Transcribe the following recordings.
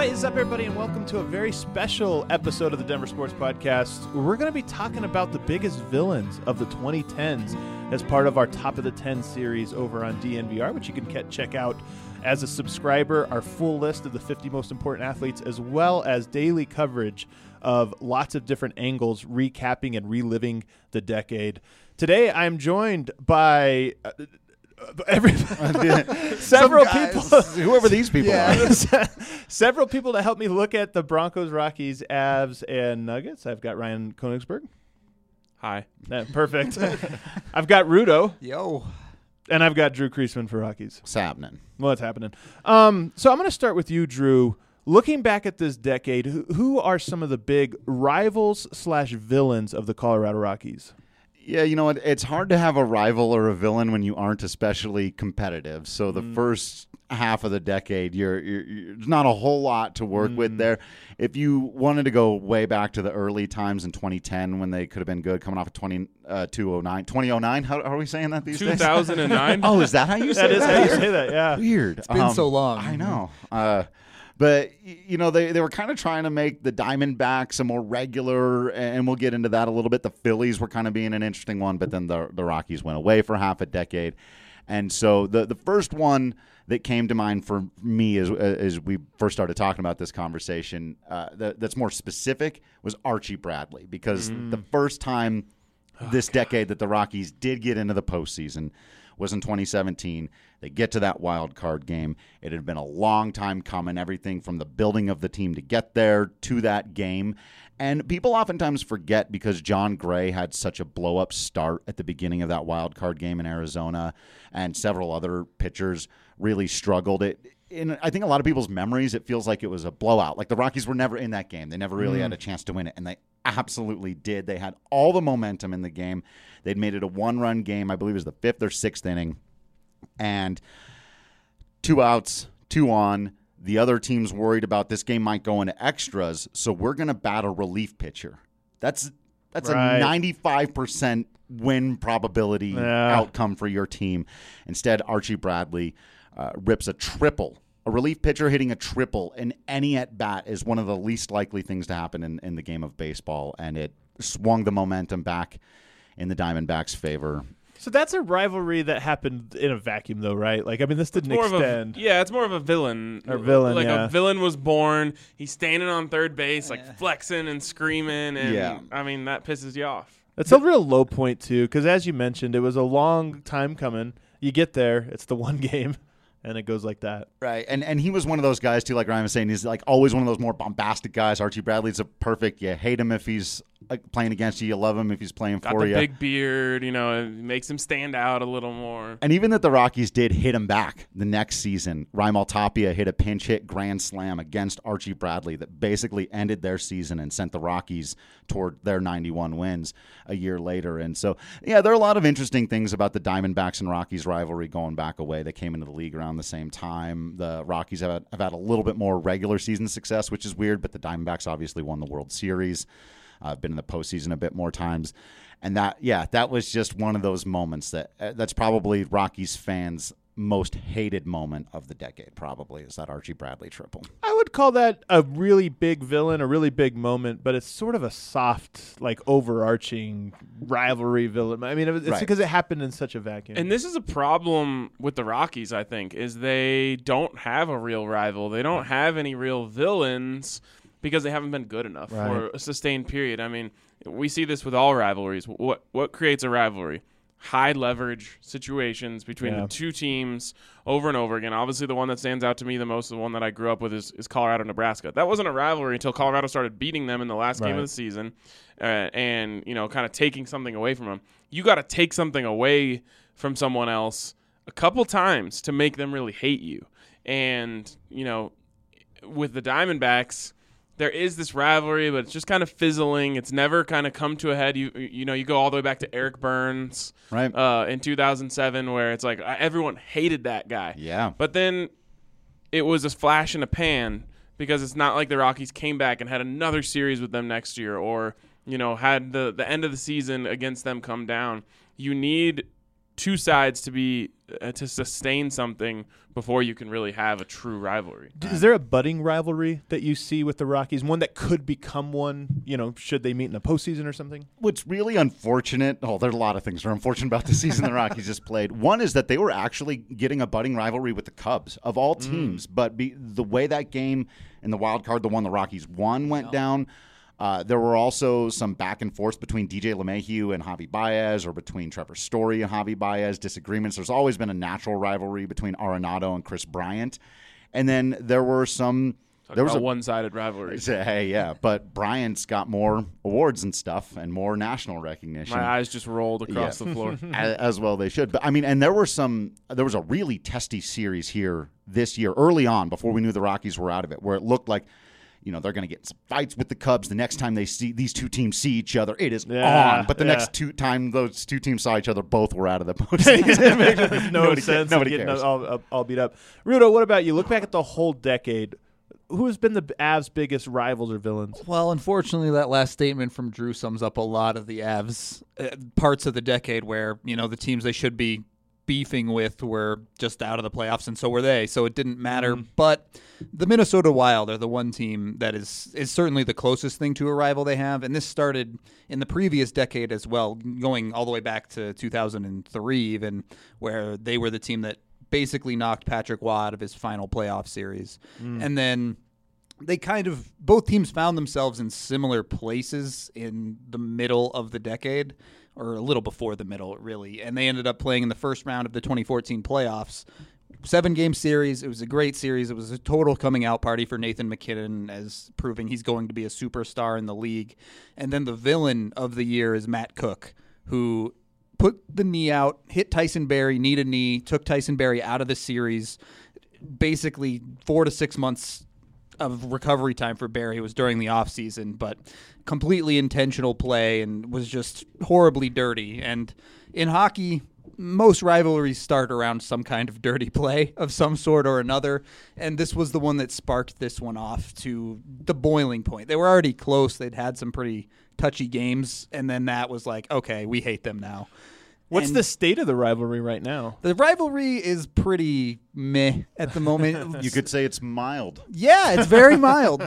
What is up, everybody, and welcome to a very special episode of the Denver Sports Podcast. We're going to be talking about the biggest villains of the 2010s as part of our Top of the 10 series over on DNVR, which you can check out as a subscriber, our full list of the 50 most important athletes, as well as daily coverage of lots of different angles, recapping and reliving the decade. Today, I'm joined by... several people, whoever these people are. Several people to help me look at the Broncos, Rockies, Avs, and Nuggets. I've got Ryan Koenigsberg. Hi. Yeah, perfect. I've got Rudo. Yo. And I've got Drew Kreisman for Rockies. What's happening? What's happening? So I'm going to start with you, Drew. Looking back at this decade, who are some of the big rivals/villains of the Colorado Rockies? Yeah, you know what? It's hard to have a rival or a villain when you aren't especially competitive. So the first half of the decade, there's not a whole lot to work with there. If you wanted to go way back to the early times in 2010 when they could have been good, coming off of 2009. How are we saying that these days? 2009. Oh, is that how you say that? That is how you say that, yeah. Weird. It's been so long. I know. But, you know, they were kind of trying to make the Diamondbacks a more regular, and we'll get into that a little bit. The Phillies were kind of being an interesting one, but then the Rockies went away for half a decade. And so the first one that came to mind for me as we first started talking about this conversation that's more specific was Archie Bradley, because the first time this decade that the Rockies did get into the postseason was in 2017. They get to that wild card game. It had been a long time coming, everything from the building of the team to get there to that game. And people oftentimes forget, because John Gray had such a blow-up start at the beginning of that wild card game in Arizona, and several other pitchers really struggled. In I think a lot of people's memories, it feels like it was a blowout. Like the Rockies were never in that game. They never really had a chance to win it, and they absolutely did. They had all the momentum in the game. They'd made it a one-run game. I believe it was the fifth or sixth inning. And 2 outs, 2 on. The other team's worried about this game might go into extras, so we're going to bat a relief pitcher. That's right. A 95% win probability outcome for your team. Instead, Archie Bradley rips a triple. A relief pitcher hitting a triple in any at-bat is one of the least likely things to happen in the game of baseball, and it swung the momentum back in the Diamondbacks' favor. So that's a rivalry that happened in a vacuum, though, right? Like, I mean, this didn't extend. It's more of a villain. Or villain, like yeah. a villain was born. He's standing on third base, like flexing and screaming, and I mean, that pisses you off. It's a real low point, too, because as you mentioned, it was a long time coming. You get there, it's the one game, and it goes like that. Right, and he was one of those guys, too, like Ryan was saying. He's like always one of those more bombastic guys. Archie Bradley's a perfect, you hate him if he's playing against you. You love him if he's playing for you. Got the big beard, it makes him stand out a little more. And even that the Rockies did hit him back the next season. Raimel Tapia hit a pinch hit grand slam against Archie Bradley that basically ended their season and sent the Rockies toward their 91 wins a year later. And so, yeah, there are a lot of interesting things about the Diamondbacks and Rockies rivalry going back a way. They came into the league around the same time. The Rockies have had a little bit more regular season success, which is weird, but the Diamondbacks obviously won the World Series. Been in the postseason a bit more times. And that was just one of those moments that's probably Rockies fans' most hated moment of the decade, probably, is that Archie Bradley triple. I would call that a really big villain, a really big moment, but it's sort of a soft, like, overarching rivalry villain. I mean, it's because it happened in such a vacuum. And this is a problem with the Rockies, I think, is they don't have a real rival. They don't have any real villains, because they haven't been good enough for a sustained period. I mean, we see this with all rivalries. What creates a rivalry? High leverage situations between the two teams over and over again. Obviously, the one that stands out to me the most, the one that I grew up with, is Colorado-Nebraska. That wasn't a rivalry until Colorado started beating them in the last game of the season and, kind of taking something away from them. You got to take something away from someone else a couple times to make them really hate you. And, with the Diamondbacks, there is this rivalry, but it's just kind of fizzling. It's never kind of come to a head. You go all the way back to Eric Burns in 2007, where it's like everyone hated that guy. Yeah. But then it was a flash in a pan, because it's not like the Rockies came back and had another series with them next year, or had the end of the season against them come down. You need two sides to be to sustain something before you can really have a true rivalry. Is there a budding rivalry that you see with the Rockies? One that could become one, should they meet in the postseason or something? What's really unfortunate, there's a lot of things that are unfortunate about the season the Rockies just played. One is that they were actually getting a budding rivalry with the Cubs of all teams, but the way that game in the wild card, the one the Rockies won, went down, there were also some back and forth between DJ LeMahieu and Javi Baez, or between Trevor Story and Javi Baez, disagreements. There's always been a natural rivalry between Arenado and Chris Bryant. And then there were some... There was a one-sided rivalry. Hey, yeah, but Bryant's got more awards and stuff and more national recognition. My eyes just rolled across the floor. As well they should. But, and there was a really testy series here this year, early on, before we knew the Rockies were out of it, where it looked like they're going to get some fights with the Cubs. The next time these two teams see each other, it is on. But the next time those two teams saw each other, both were out of the postseason. It makes no sense. Nobody cares. All beat up. Rudo, what about you? Look back at the whole decade. Who has been the Avs' biggest rivals or villains? Well, unfortunately, that last statement from Drew sums up a lot of the Avs parts of the decade where, the teams they should be beefing with were just out of the playoffs, and so were they. So it didn't matter. But the Minnesota Wild are the one team that is certainly the closest thing to a rival they have. And this started in the previous decade as well, going all the way back to 2003 even, where they were the team that basically knocked Patrick Waugh out of his final playoff series. And then they both teams found themselves in similar places in the middle of the decade, or a little before the middle, really. And they ended up playing in the first round of the 2014 playoffs. 7-game series. It was a great series. It was a total coming out party for Nathan MacKinnon, as proving he's going to be a superstar in the league. And then the villain of the year is Matt Cook, who put the knee out, hit Tyson Barrie, knee to knee, took Tyson Barrie out of the series. Basically 4 to 6 months of recovery time for Barrie. It was during the offseason, but completely intentional play and was just horribly dirty. And in hockey, most rivalries start around some kind of dirty play of some sort or another, and this was the one that sparked this one off to the boiling point. They were already close. They'd had some pretty touchy games, and then that was like, okay, we hate them now. What's the state of the rivalry right now? The rivalry is pretty meh at the moment. You could say it's mild. Yeah, it's very mild.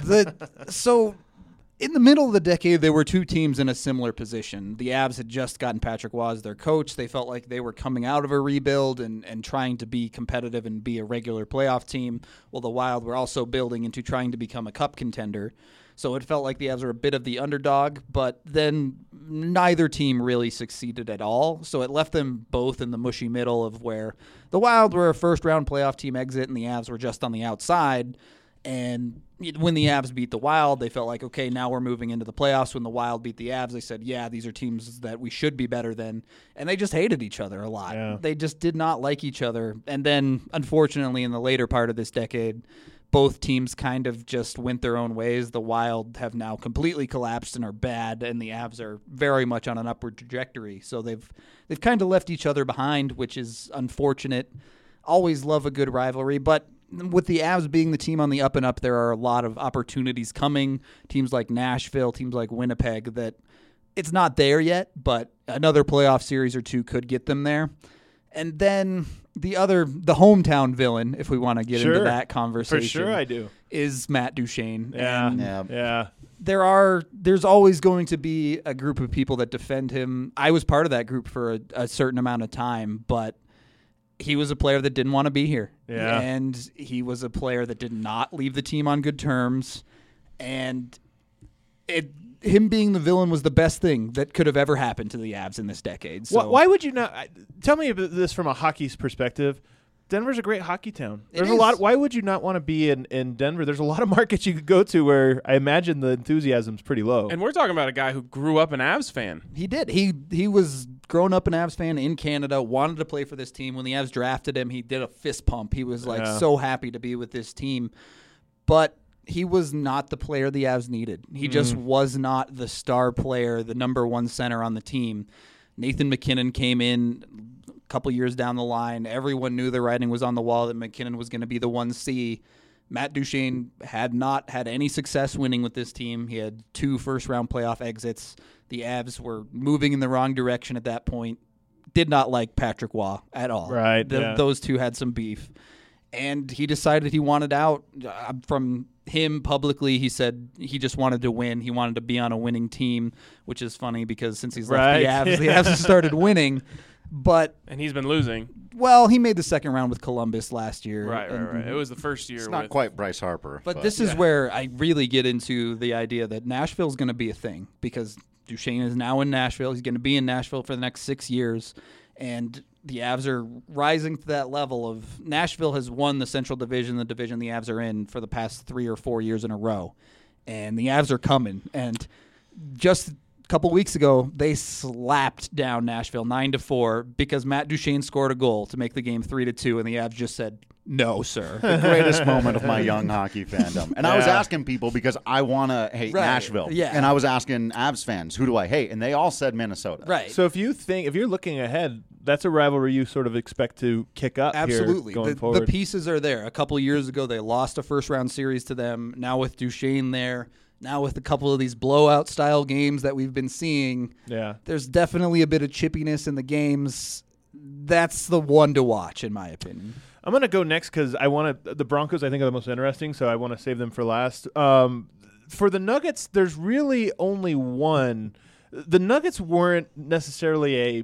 So in the middle of the decade, there were two teams in a similar position. The Avs had just gotten Patrick Waugh as their coach. They felt like they were coming out of a rebuild and trying to be competitive and be a regular playoff team, while the Wild were also building into trying to become a cup contender. So it felt like the Avs were a bit of the underdog, but then neither team really succeeded at all. So it left them both in the mushy middle of where the Wild were a first-round playoff team exit and the Avs were just on the outside. And when the Avs beat the Wild, they felt like, okay, now we're moving into the playoffs. When the Wild beat the Avs, they said, yeah, these are teams that we should be better than. And they just hated each other a lot. Yeah. They just did not like each other. And then, unfortunately, in the later part of this decade, both teams kind of just went their own ways. The Wild have now completely collapsed and are bad, and the Avs are very much on an upward trajectory. So they've kind of left each other behind, which is unfortunate. Always love a good rivalry, but with the Avs being the team on the up and up, there are a lot of opportunities coming. Teams like Nashville, teams like Winnipeg, that it's not there yet, but another playoff series or two could get them there. And then the hometown villain, if we want to get into that conversation. For sure I do. Is Matt Duchene. Yeah. There's always going to be a group of people that defend him. I was part of that group for a certain amount of time, but he was a player that didn't want to be here. Yeah. And he was a player that did not leave the team on good terms. And him being the villain was the best thing that could have ever happened to the Avs in this decade. So why would you not tell me about this from a hockey's perspective? Denver's a great hockey town. There's a lot. Why would you not want to be in Denver? There's a lot of markets you could go to where I imagine the enthusiasm's pretty low. And we're talking about a guy who grew up an Avs fan. He did. He was grown up an Avs fan in Canada, wanted to play for this team. When the Avs drafted him, he did a fist pump. He was so happy to be with this team. But he was not the player the Avs needed. He just was not the star player, the number one center on the team. Nathan MacKinnon came in a couple years down the line. Everyone knew the writing was on the wall that MacKinnon was going to be the 1C. Matt Duchene had not had any success winning with this team. He had 2 first-round playoff exits. The Avs were moving in the wrong direction at that point. did not like Patrick Waugh at all. Right, Those two had some beef. And he decided he wanted out. From him publicly, he said he just wanted to win. He wanted to be on a winning team, which is funny because since he's left the Avs have started winning. And he's been losing. Well, he made the second round with Columbus last year. Right. It was the first year. It's not quite Bryce Harper. But this is where I really get into the idea that Nashville's going to be a thing because Duchesne is now in Nashville. He's going to be in Nashville for the next 6 years. And the Avs are rising to that level of Nashville has won the Central Division, the division the Avs are in for the past 3 or 4 years in a row. And the Avs are coming. And just a couple weeks ago, they slapped down Nashville 9-4 because Matt Duchene scored a goal to make the game 3-2, and the Avs just said, "No, sir." The greatest moment of my young hockey fandom. And I was asking people because I want to hate Nashville. Yeah. And I was asking Avs fans, who do I hate? And they all said Minnesota. Right. So if you're looking ahead, that's a rivalry you sort of expect to kick up Absolutely. here going forward. The pieces are there. A couple of years ago, they lost a first-round series to them. Now with Duchene there, now with a couple of these blowout-style games that we've been seeing, there's definitely a bit of chippiness in the games. That's the one to watch, in my opinion. I'm going to go next because the Broncos I think are the most interesting, so I want to save them for last. For the Nuggets, there's really only one. The Nuggets weren't necessarily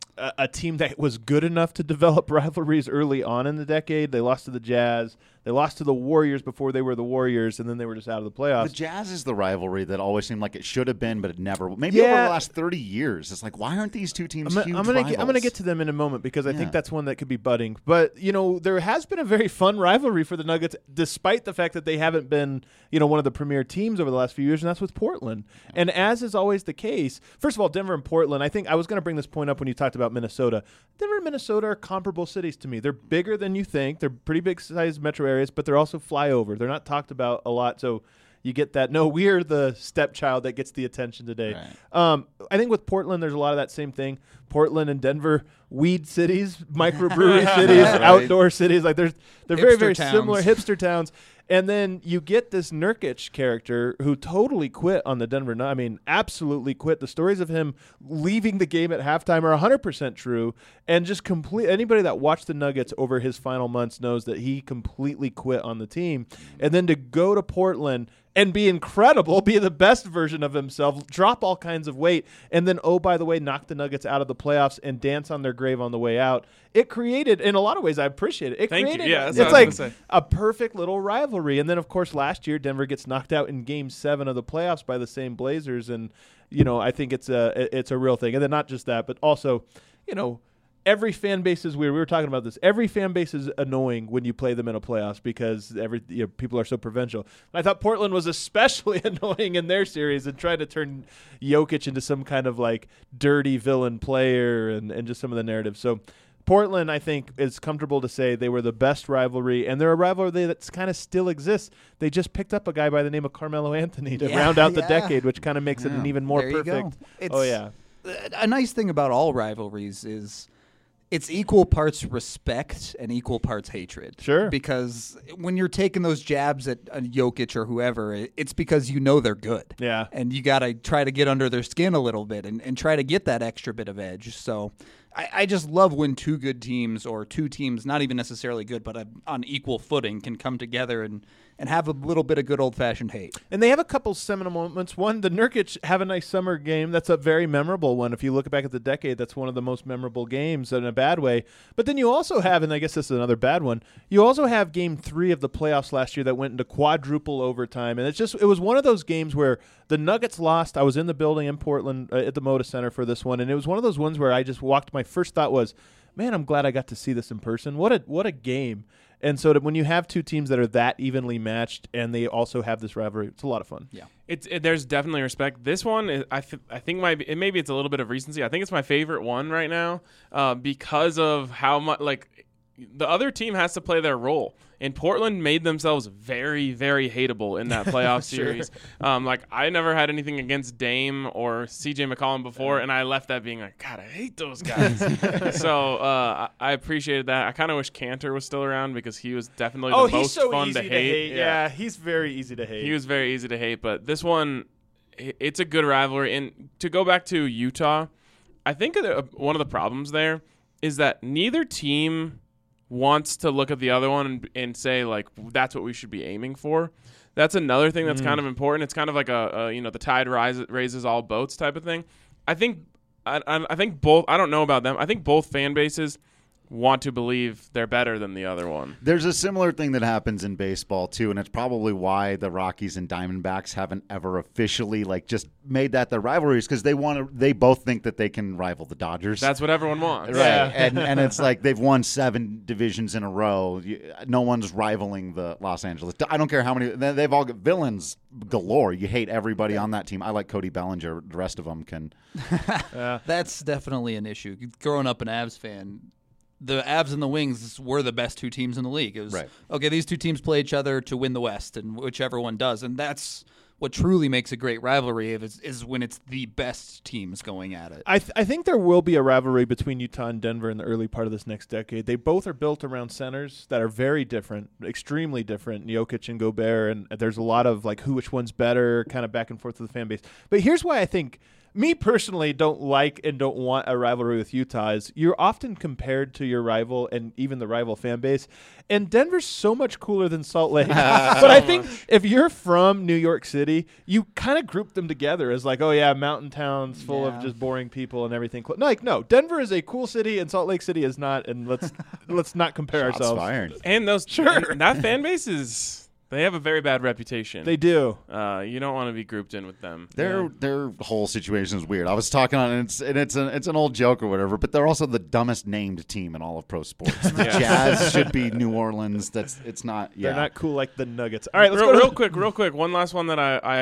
a team that was good enough to develop rivalries early on in the decade. They lost to the Jazz. They lost to the Warriors before they were the Warriors, and then they were just out of the playoffs. The Jazz is the rivalry that always seemed like it should have been, but it never. Maybe over the last 30 years, it's like, why aren't these two teams huge rivals? I'm going to get to them in a moment because I think that's one that could be budding. But, there has been a very fun rivalry for the Nuggets, despite the fact that they haven't been, one of the premier teams over the last few years, and that's with Portland. And as is always the case, first of all, Denver and Portland, I think I was going to bring this point up when you talked about Minnesota. Denver and Minnesota are comparable cities to me. They're bigger than you think. They're pretty big-sized metro areas, but they're also flyover. They're not talked about a lot, so you get that. No, we're the stepchild that gets the attention today. Right. I think with Portland, there's a lot of that same thing. Portland and Denver, weed cities, microbrewery cities, outdoor cities. Like they're very, very similar hipster towns. And then you get this Nurkic character who totally quit on the Denver Nuggets. I mean, absolutely quit. The stories of him leaving the game at halftime are 100% true. And just anybody that watched the Nuggets over his final months knows that he completely quit on the team. And then to go to Portland and be incredible, be the best version of himself, drop all kinds of weight, and then, oh, by the way, knock the Nuggets out of the playoffs and dance on their grave on the way out. It created, in a lot of ways, I appreciate it. Thank you. Yeah, it's like a perfect little rivalry. And then, of course, last year, Denver gets knocked out in Game 7 of the playoffs by the same Blazers. And, I think it's a real thing. And then not just that, but also, every fan base is weird. We were talking about this. Every fan base is annoying when you play them in a playoffs because people are so provincial. I thought Portland was especially annoying in their series and trying to turn Jokic into some kind of like dirty villain player and just some of the narratives. So Portland, I think, is comfortable to say they were the best rivalry, and they're a rivalry that kind of still exists. They just picked up a guy by the name of Carmelo Anthony to round out the decade, which kind of makes it an even more perfect. A nice thing about all rivalries is it's equal parts respect and equal parts hatred. Sure. Because when you're taking those jabs at Jokic or whoever, it's because they're good. Yeah. And you got to try to get under their skin a little bit and try to get that extra bit of edge. So I just love when two good teams or two teams, not even necessarily good, but on equal footing, can come together and have a little bit of good old-fashioned hate. And they have a couple seminal moments. One, the Nurkic Have a Nice Summer game. That's a very memorable one. If you look back at the decade, that's one of the most memorable games in a bad way. But then you also have, and I guess this is another bad one, you also have Game 3 of the playoffs last year that went into quadruple overtime. And it was one of those games where the Nuggets lost. I was in the building in Portland at the Moda Center for this one, and it was one of those ones where I just walked. My first thought was, man, I'm glad I got to see this in person. What a game. And so when you have two teams that are that evenly matched and they also have this rivalry, it's a lot of fun. Yeah, there's definitely respect. This one, I think maybe it's a little bit of recency. I think it's my favorite one right now because of how much the other team has to play their role. And Portland made themselves very, very hateable in that playoff series. I never had anything against Dame or CJ McCollum before, and I left that being like, God, I hate those guys. So I appreciated that. I kind of wish Cantor was still around because he was definitely the most fun to hate. Yeah, he's very easy to hate. He was very easy to hate, but this one, it's a good rivalry. And to go back to Utah, I think one of the problems there is that neither team wants to look at the other one and say, like, that's what we should be aiming for. That's another thing that's kind of important. It's kind of like the tide raises all boats type of thing. I think both. I don't know about them. I think both fan bases want to believe they're better than the other one. There's a similar thing that happens in baseball too, and it's probably why the Rockies and Diamondbacks haven't ever officially just made that their rivalries, because they both think that they can rival the Dodgers. That's what everyone wants. Right. Yeah. And it's like they've won 7 divisions in a row. No one's rivaling the Los Angeles. I don't care how many. They've all got villains galore. You hate everybody on that team. I like Cody Bellinger. The rest of them can. That's definitely an issue. Growing up an Avs fan, the Avs and the Wings were the best 2 teams in the league. It was, okay, these 2 teams play each other to win the West, and whichever one does. And that's what truly makes a great rivalry is when it's the best teams going at it. I think there will be a rivalry between Utah and Denver in the early part of this next decade. They both are built around centers that are very different, extremely different, Jokic and Gobert, and there's a lot of which one's better, kind of back and forth with the fan base. But here's why I think – me personally don't like and don't want a rivalry with Utah is you're often compared to your rival and even the rival fan base. And Denver's so much cooler than Salt Lake. But I think if you're from New York City, you kind of group them together as mountain towns full of just boring people and everything. No, Denver is a cool city and Salt Lake City is not. And let's not compare Shots ourselves. Fired. And and that fan base they have a very bad reputation. They do. You don't want to be grouped in with them. Their whole situation is weird. I was talking on it's an old joke or whatever, but they're also the dumbest named team in all of pro sports. The Jazz should be New Orleans. It's not. Yeah. They're not cool like the Nuggets. All right, let's go real quick. One last one that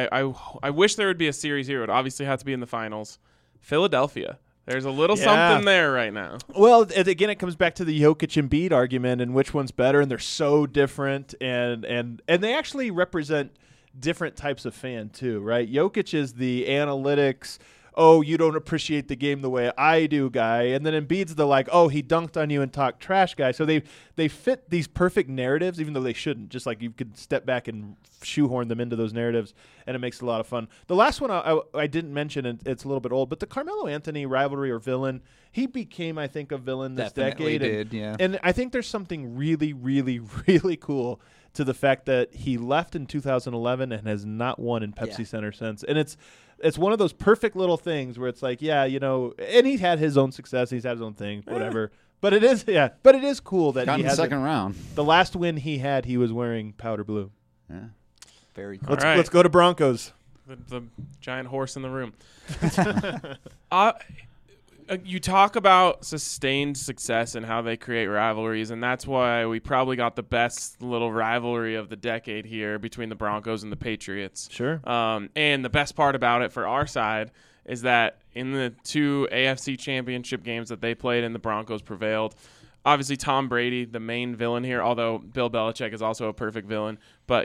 I wish there would be a series here. It would obviously have to be in the finals. Philadelphia. There's a little something there right now. Well, again, it comes back to the Jokic Embiid argument and which one's better, and they're so different, and they actually represent different types of fan too, right? Jokic is the analytics, you don't appreciate the game the way I do guy, and then Embiid's the he dunked on you and talked trash guy. So they fit these perfect narratives, even though they shouldn't. Just you could step back and shoehorn them into those narratives, and it makes it a lot of fun. The last one I didn't mention, and it's a little bit old, but the Carmelo Anthony rivalry or villain, he became, I think, a villain this decade. And I think there's something really, really, really cool to the fact that he left in 2011 and has not won in Pepsi Center since. And it's one of those perfect little things where it's and he had his own success, he's had his own thing, whatever. But it is cool that he had the second round. The last win he had, he was wearing powder blue. Yeah. Very cool. Let's go to Broncos. The giant horse in the room. You talk about sustained success and how they create rivalries, and that's why we probably got the best little rivalry of the decade here between the Broncos and the Patriots. Sure. And the best part about it for our side is that in the 2 AFC championship games that they played and the Broncos prevailed, obviously Tom Brady, the main villain here, although Bill Belichick is also a perfect villain, but,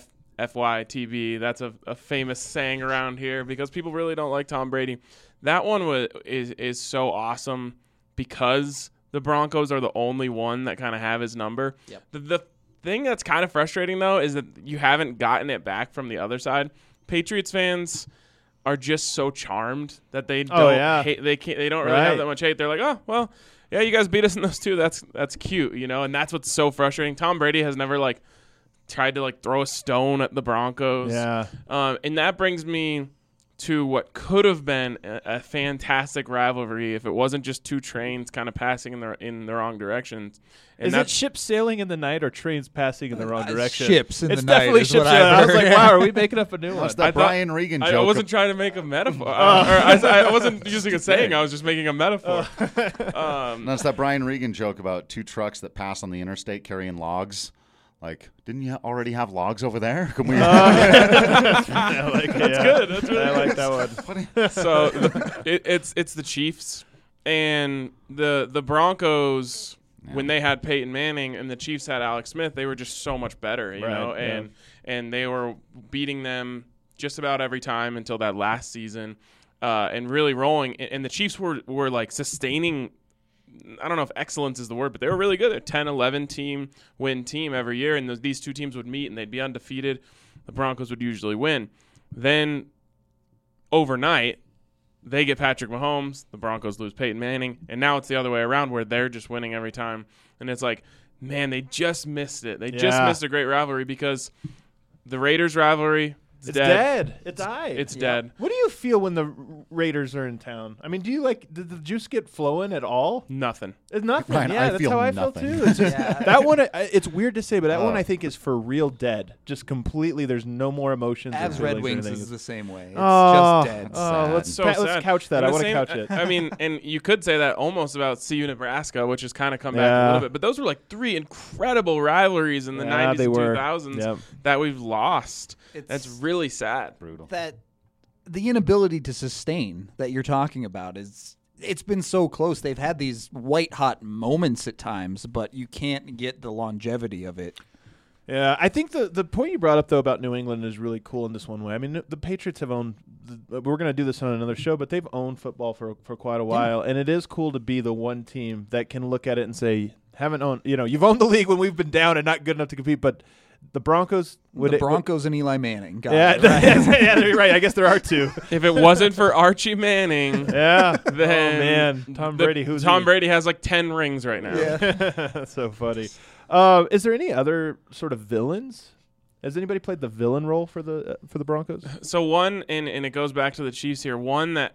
FYTB, that's a famous saying around here because people really don't like Tom Brady. That one is so awesome because the Broncos are the only one that kind of have his number. Yep. The thing that's kind of frustrating, though, is that you haven't gotten it back from the other side. Patriots fans are just so charmed that they don't hate. They don't really have that much hate. They're like, oh, well, yeah, you guys beat us in those 2. That's cute, and that's what's so frustrating. Tom Brady has never tried to throw a stone at the Broncos. Yeah. And that brings me to what could have been a fantastic rivalry if it wasn't just 2 trains kind of passing in the wrong directions. And is it ships sailing in the night or trains passing in the wrong direction? Ships in the night. It's definitely ships sailing. I was like, wow, are we making up a new one? That's that Brian Regan joke. I wasn't trying to make a metaphor. I wasn't using a saying. I was just making a metaphor. That's that Brian Regan joke about 2 trucks that pass on the interstate carrying logs. Didn't you already have logs over there? Can we? That's good. That's really I like that one. So it's the Chiefs and the Broncos. Yeah. When they had Peyton Manning and the Chiefs had Alex Smith, they were just so much better, you know, and they were beating them just about every time until that last season, and really rolling. And the Chiefs were sustaining. I don't know if excellence is the word, but they were really good. They're 10-11 win team every year, and these 2 teams would meet, and they'd be undefeated. The Broncos would usually win. Then overnight, they get Patrick Mahomes, the Broncos lose Peyton Manning, and now it's the other way around where they're just winning every time. And it's like, man, they just missed it. They just missed a great rivalry because the Raiders rivalry, it's dead. It died. It's dead. What do you feel when the Raiders are in town? I mean, do you did the juice get flowing at all? Nothing. It's nothing. Ryan, yeah, I that's feel how I nothing. feel too. It's just, that one, it's weird to say, but that one I think is for real dead. Just completely, there's no more emotions. or Avs feelings Red or Wings anything. is the same way. It's Oh, just dead. oh, sad. let's couch that. And I the want to same- couch it. I mean, and you could say that almost about CU Nebraska, which has kind of come back a Yeah. little bit. But those were like 3 incredible rivalries in the 90s they and were. 2000s Yep. that we've lost. It's That's really sad. Brutal. that the inability to sustain that you're talking about it's been so close. They've had these white hot moments at times, but you can't get the longevity of it. Yeah, I think the point you brought up, though, about New England is really cool in this one way. I mean, the Patriots have owned we're going to do this on another show, but they've owned football for quite a while, and it is cool to be the one team that can look at it and say, haven't owned, you've owned the league when we've been down and not good enough to compete, but the Broncos The Broncos and Eli Manning. Got Yeah, it, right? yeah, you're right. I guess there are two. If it wasn't for Archie Manning, Yeah. then oh, man. Tom Brady. Who's Tom he? Brady has like 10 rings right now. That's so funny. Is there any other sort of villains? Has anybody played the villain role for the Broncos? So one, and it goes back to the Chiefs here, one that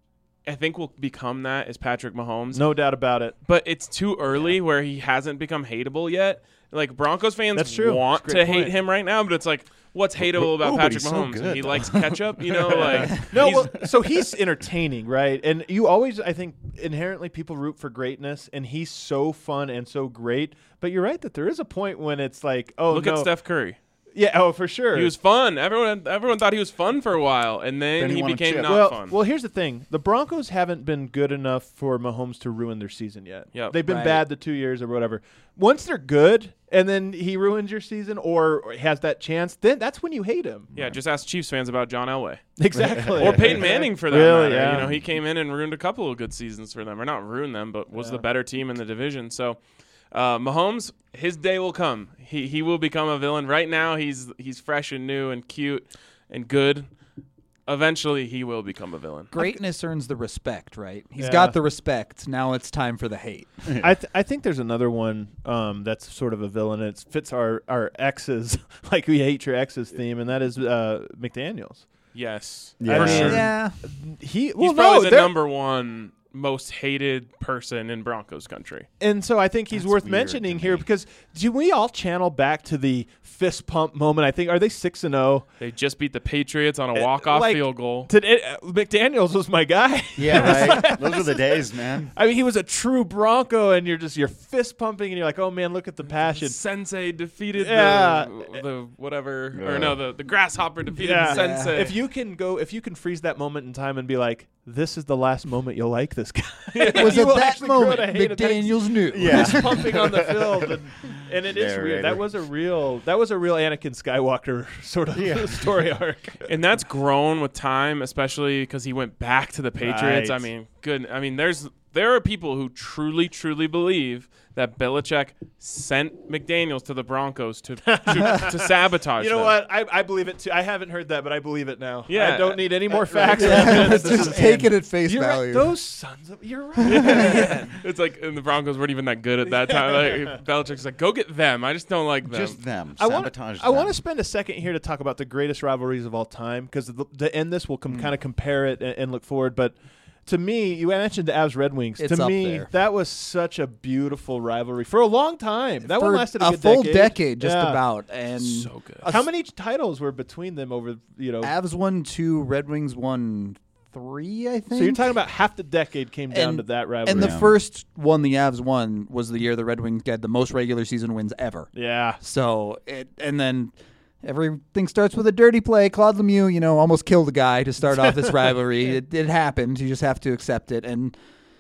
I think will become that is Patrick Mahomes. No doubt about it. But it's too early where he hasn't become hateable yet. Like, Broncos fans That's true. want That's a great to hate point. him right now, but it's like, what's hateable about but Patrick he's so Mahomes? good. He likes ketchup, like No, he's- well, so he's entertaining, right? And you always, I think, inherently people root for greatness, and he's so fun and so great. But you're right that there is a point when it's like, oh, look no. at Steph Curry. Yeah, oh, for sure. He was fun. Everyone thought he was fun for a while, and then Then he he won a became chip. not well, fun. Well, here's the thing. The Broncos haven't been good enough for Mahomes to ruin their season yet. Yep. They've been Right. bad the 2 years or whatever. Once they're good and then he ruins your season or has that chance, then that's when you hate him. Yeah, just ask Chiefs fans about John Elway. Exactly. Or Peyton Manning for that Really, matter. yeah. He came in and ruined a couple of good seasons for them. Or not ruined them, but was the better team in the division. So Mahomes, his day will come. He will become a villain. Right now he's fresh and new and cute and good. Eventually he will become a villain. Greatness earns the respect, right? He's Yeah. got the respect. Now it's time for the hate. I think there's another one that's sort of a villain. It fits our exes, like we hate your exes theme, and that is McDaniels. Yes. Yeah. For sure. Yeah. He's probably the they're- number one most hated person in Broncos country. And so I think he's That's worth weird mentioning to here me. because do we all channel back to the fist pump moment? I think are they 6-0? They just beat the Patriots on a walk-off like, field goal. McDaniels was my guy. Yeah, right. Those are the days, man. I mean, he was a true Bronco, and you're fist pumping, and you're like, oh man, look at the passion. Sensei defeated Yeah. the whatever Yeah. or no the grasshopper defeated Yeah. the Sensei. If you can freeze that moment in time and be like, this is the last moment you'll like this guy. It was You at will that actually grow moment to hate it. McDaniels knew. Yeah. Fist pumping on the field, and it is weird. Narrator. That was a real Anakin Skywalker sort of story arc. and that's grown with time, especially because he went back to the Patriots. Right. I mean, good. I mean, there are people who truly believe that Belichick sent McDaniels to the Broncos to sabotage You know them. what? I believe it too. I haven't heard that, but I believe it now. Yeah. I don't need any more facts. Yeah, or evidence. just take it at face You're right. value. Those sons of you're right. Man. It's like, and the Broncos weren't even that good at that time. Like, Belichick's like, go get them. I just don't like them. Just them. I Sabotage want to them. spend a second here to talk about the greatest rivalries of all time because to end this, we'll kind of compare it and look forward. But to me, you mentioned the Avs Red Wings. It's to up me, there. that was such a beautiful rivalry for a long time. That one For lasted a good full decade. decade, just Yeah. about. And so good. How many titles were between them over? Avs won 2, Red Wings won 3, I think. So you're talking about half the decade came down And- to that rivalry. And the Yeah. first one the Avs won was the year the Red Wings had the most regular season wins ever. yeah. So and then everything starts with a dirty play. Claude Lemieux, almost killed a guy to start off this rivalry. It happened. You just have to accept it. And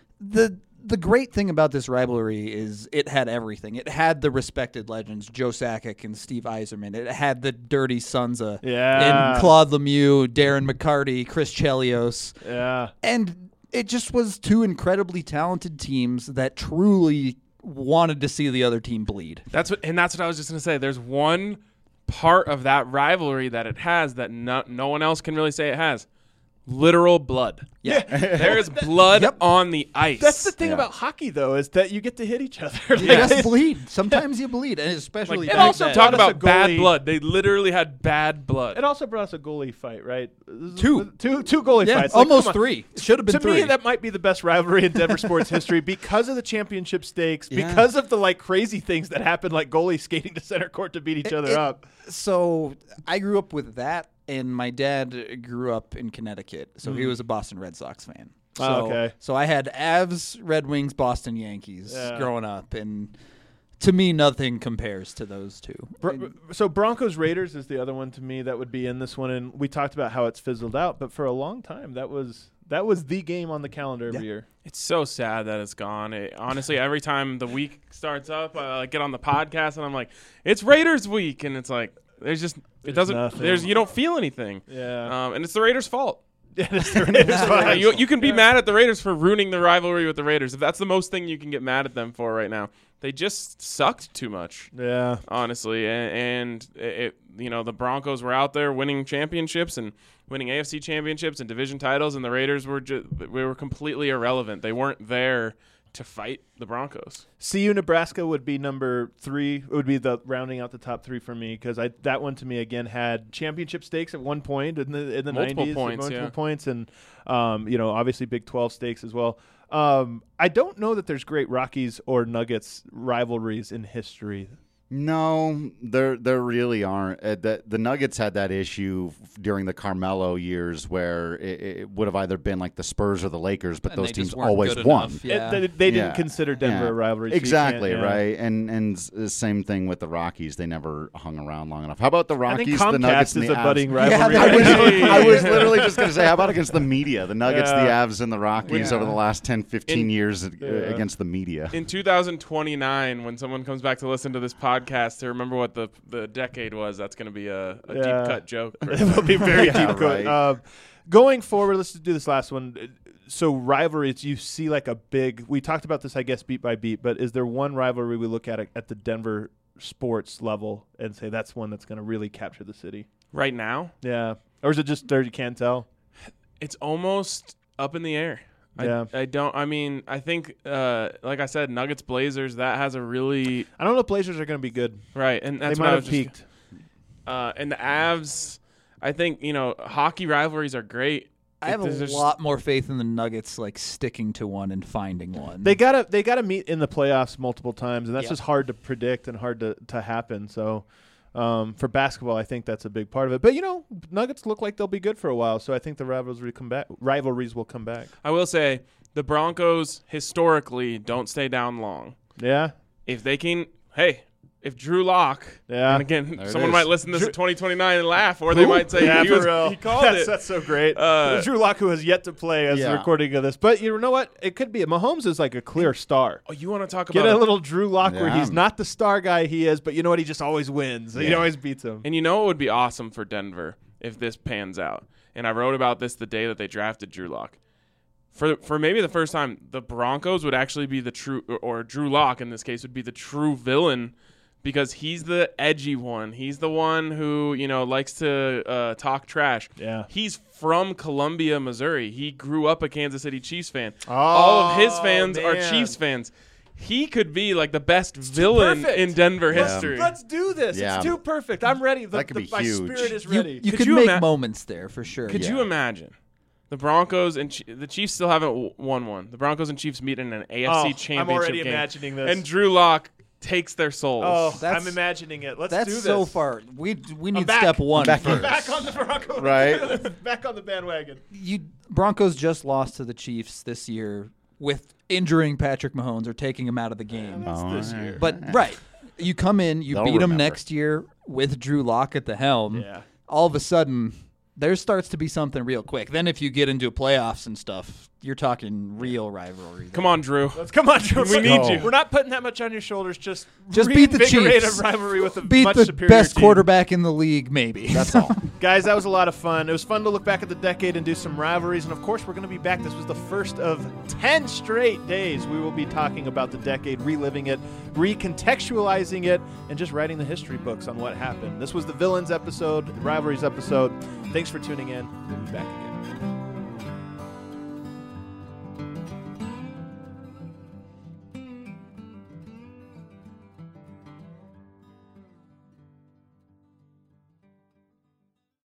the great thing about this rivalry is it had everything. It had the respected legends, Joe Sakic and Steve Yzerman. It had the dirty sons of Yeah. and Claude Lemieux, Darren McCarty, Chris Chelios. Yeah. And it just was two incredibly talented teams that truly wanted to see the other team bleed. That's what I was just gonna say. There's one part of that rivalry that it has that no one else can really say it has. literal blood. Yeah. There is blood on the ice. That's the thing Yeah. about hockey, though, is that you get to hit each other. You just bleed. Sometimes you bleed, and especially Like, back also then. brought talk us a about bad goalie. blood. They literally had bad blood. It also brought us a goalie fight, right? Two goalie Yeah, fights. Like, almost come on. 3. It should have been To 3. me, that might be the best rivalry in Denver sports history because of the championship stakes, Yeah. because of the like crazy things that happen, like goalies skating to center court to beat each other up. So I grew up with that, and my dad grew up in Connecticut, so he was a Boston Red Sox fan. So, Oh, okay. So I had Avs, Red Wings, Boston Yankees Yeah. growing up, and to me, nothing compares to those two. So Broncos Raiders is the other one to me that would be in this one, and we talked about how it's fizzled out, but for a long time that was the game on the calendar every year. It's so sad that it's gone. Honestly, every time the week starts up, I get on the podcast and I'm like, "It's Raiders week," and it's like, there's nothing. you don't feel anything. Yeah. And it's the Raiders' fault. It's the Raiders' fault. You can be mad at the Raiders for ruining the rivalry with the Raiders. If that's the most thing you can get mad at them for right now, they just sucked too much. Yeah. Honestly, and the Broncos were out there winning championships and winning AFC championships and division titles, and the Raiders were completely irrelevant. They weren't there to fight the Broncos. CU Nebraska would be number 3. It would be the rounding out the top 3 for me because that one to me again had championship stakes at one point in the Multiple 90s, points, multiple yeah. points, and obviously Big 12 stakes as well. I don't know that there's great Rockies or Nuggets rivalries in history. No, there really aren't. The Nuggets had that issue during the Carmelo years where it would have either been like the Spurs or the Lakers, but And those they teams just weren't always good won. enough. Yeah. They didn't consider Denver a rivalry. So you Exactly, can't, yeah. right? And the same thing with the Rockies. They never hung around long enough. How about the I think Rockies, Comcast the Nuggets, and is the a Avs? budding rivalry. I was literally just going to say, how about against the media? The Nuggets, Yeah. the Avs, and the Rockies Yeah. over the last 10, 15 years against the media. In 2029, when someone comes back to listen to this podcast to remember what the decade was, that's going to be a deep cut joke. It will be very Yeah, deep cut. right. Going forward, let's do this last one. So rivalries, you see like a big. We talked about this, I guess, beat by beat. But is there one rivalry we look at the Denver sports level and say that's one that's going to really capture the city? Right now, Yeah, or is it just there? You can't tell. it's almost up in the air. Yeah. I think, like I said, Nuggets Blazers, that has a really I don't know if Blazers are going to be good. right, and that's They what might I have was just- peaked. And the Avs, I think hockey rivalries are great. I have There's a just- lot more faith in the Nuggets like sticking to one and finding one. They gotta meet in the playoffs multiple times, and that's Yep. just hard to predict and hard to happen. So. For basketball, I think that's a big part of it. But Nuggets look like they'll be good for a while, so I think the rivalries will come back. I will say the Broncos historically don't stay down long. Yeah, If they can, if Drew Lock, yeah. and again, There it someone is. might listen to this in 2029 and laugh, or they might say Yeah, he for real. called that's, it. That's so great. Drew Lock, who has yet to play as the Yeah. recording of this, but you know what? It could be. Mahomes is like a clear star. Oh, you want to talk Get about a little Drew Lock where Yeah. he's not the star guy he is, but you know what? He just always wins. He Yeah. always beats him. And you know what would be awesome for Denver if this pans out? And I wrote about this the day that they drafted Drew Lock. For maybe the first time, the Broncos would actually be the true, or Drew Lock in this case would be the true villain, because he's the edgy one. He's the one who likes to talk trash. Yeah. He's from Columbia, Missouri. He grew up a Kansas City Chiefs fan. All of his fans are man. Chiefs fans. He could be like the best villain perfect. in Denver Yeah. history. Let's do this. Yeah. It's too perfect. I'm ready. That could be my huge. spirit is you ready. Could can you make ima- moments there for sure. Could Yeah. you imagine the Broncos and the Chiefs still haven't won one? The Broncos and Chiefs meet in an AFC championship I'm already game, imagining this. and Drew Lock takes their souls. Oh, That's- I'm imagining it. Let's That's do this. so far. We need back. step one back. first. Back on the Broncos. Right. Back on the bandwagon. Broncos just lost to the Chiefs this year with injuring Patrick Mahomes or taking him out of the game. This year. But right, you come in, you They'll beat him remember. next year with Drew Lock at the helm. Yeah. All of a sudden, there starts to be something real quick. Then if you get into playoffs and stuff, you're talking real rivalry. Come on, Drew. Let's come on, Drew. We need you. We're not putting that much on your shoulders. Just beat the reinvigorate Chiefs. a rivalry with a Beat much the superior best team. quarterback in the league, maybe. That's all. Guys, that was a lot of fun. It was fun to look back at the decade and do some rivalries. And of course, we're going to be back. This was the first of 10 straight days. We will be talking about the decade, reliving it, recontextualizing it, and just writing the history books on what happened. This was the Villains episode, the Rivalries episode. Thanks for tuning in. We'll be back again.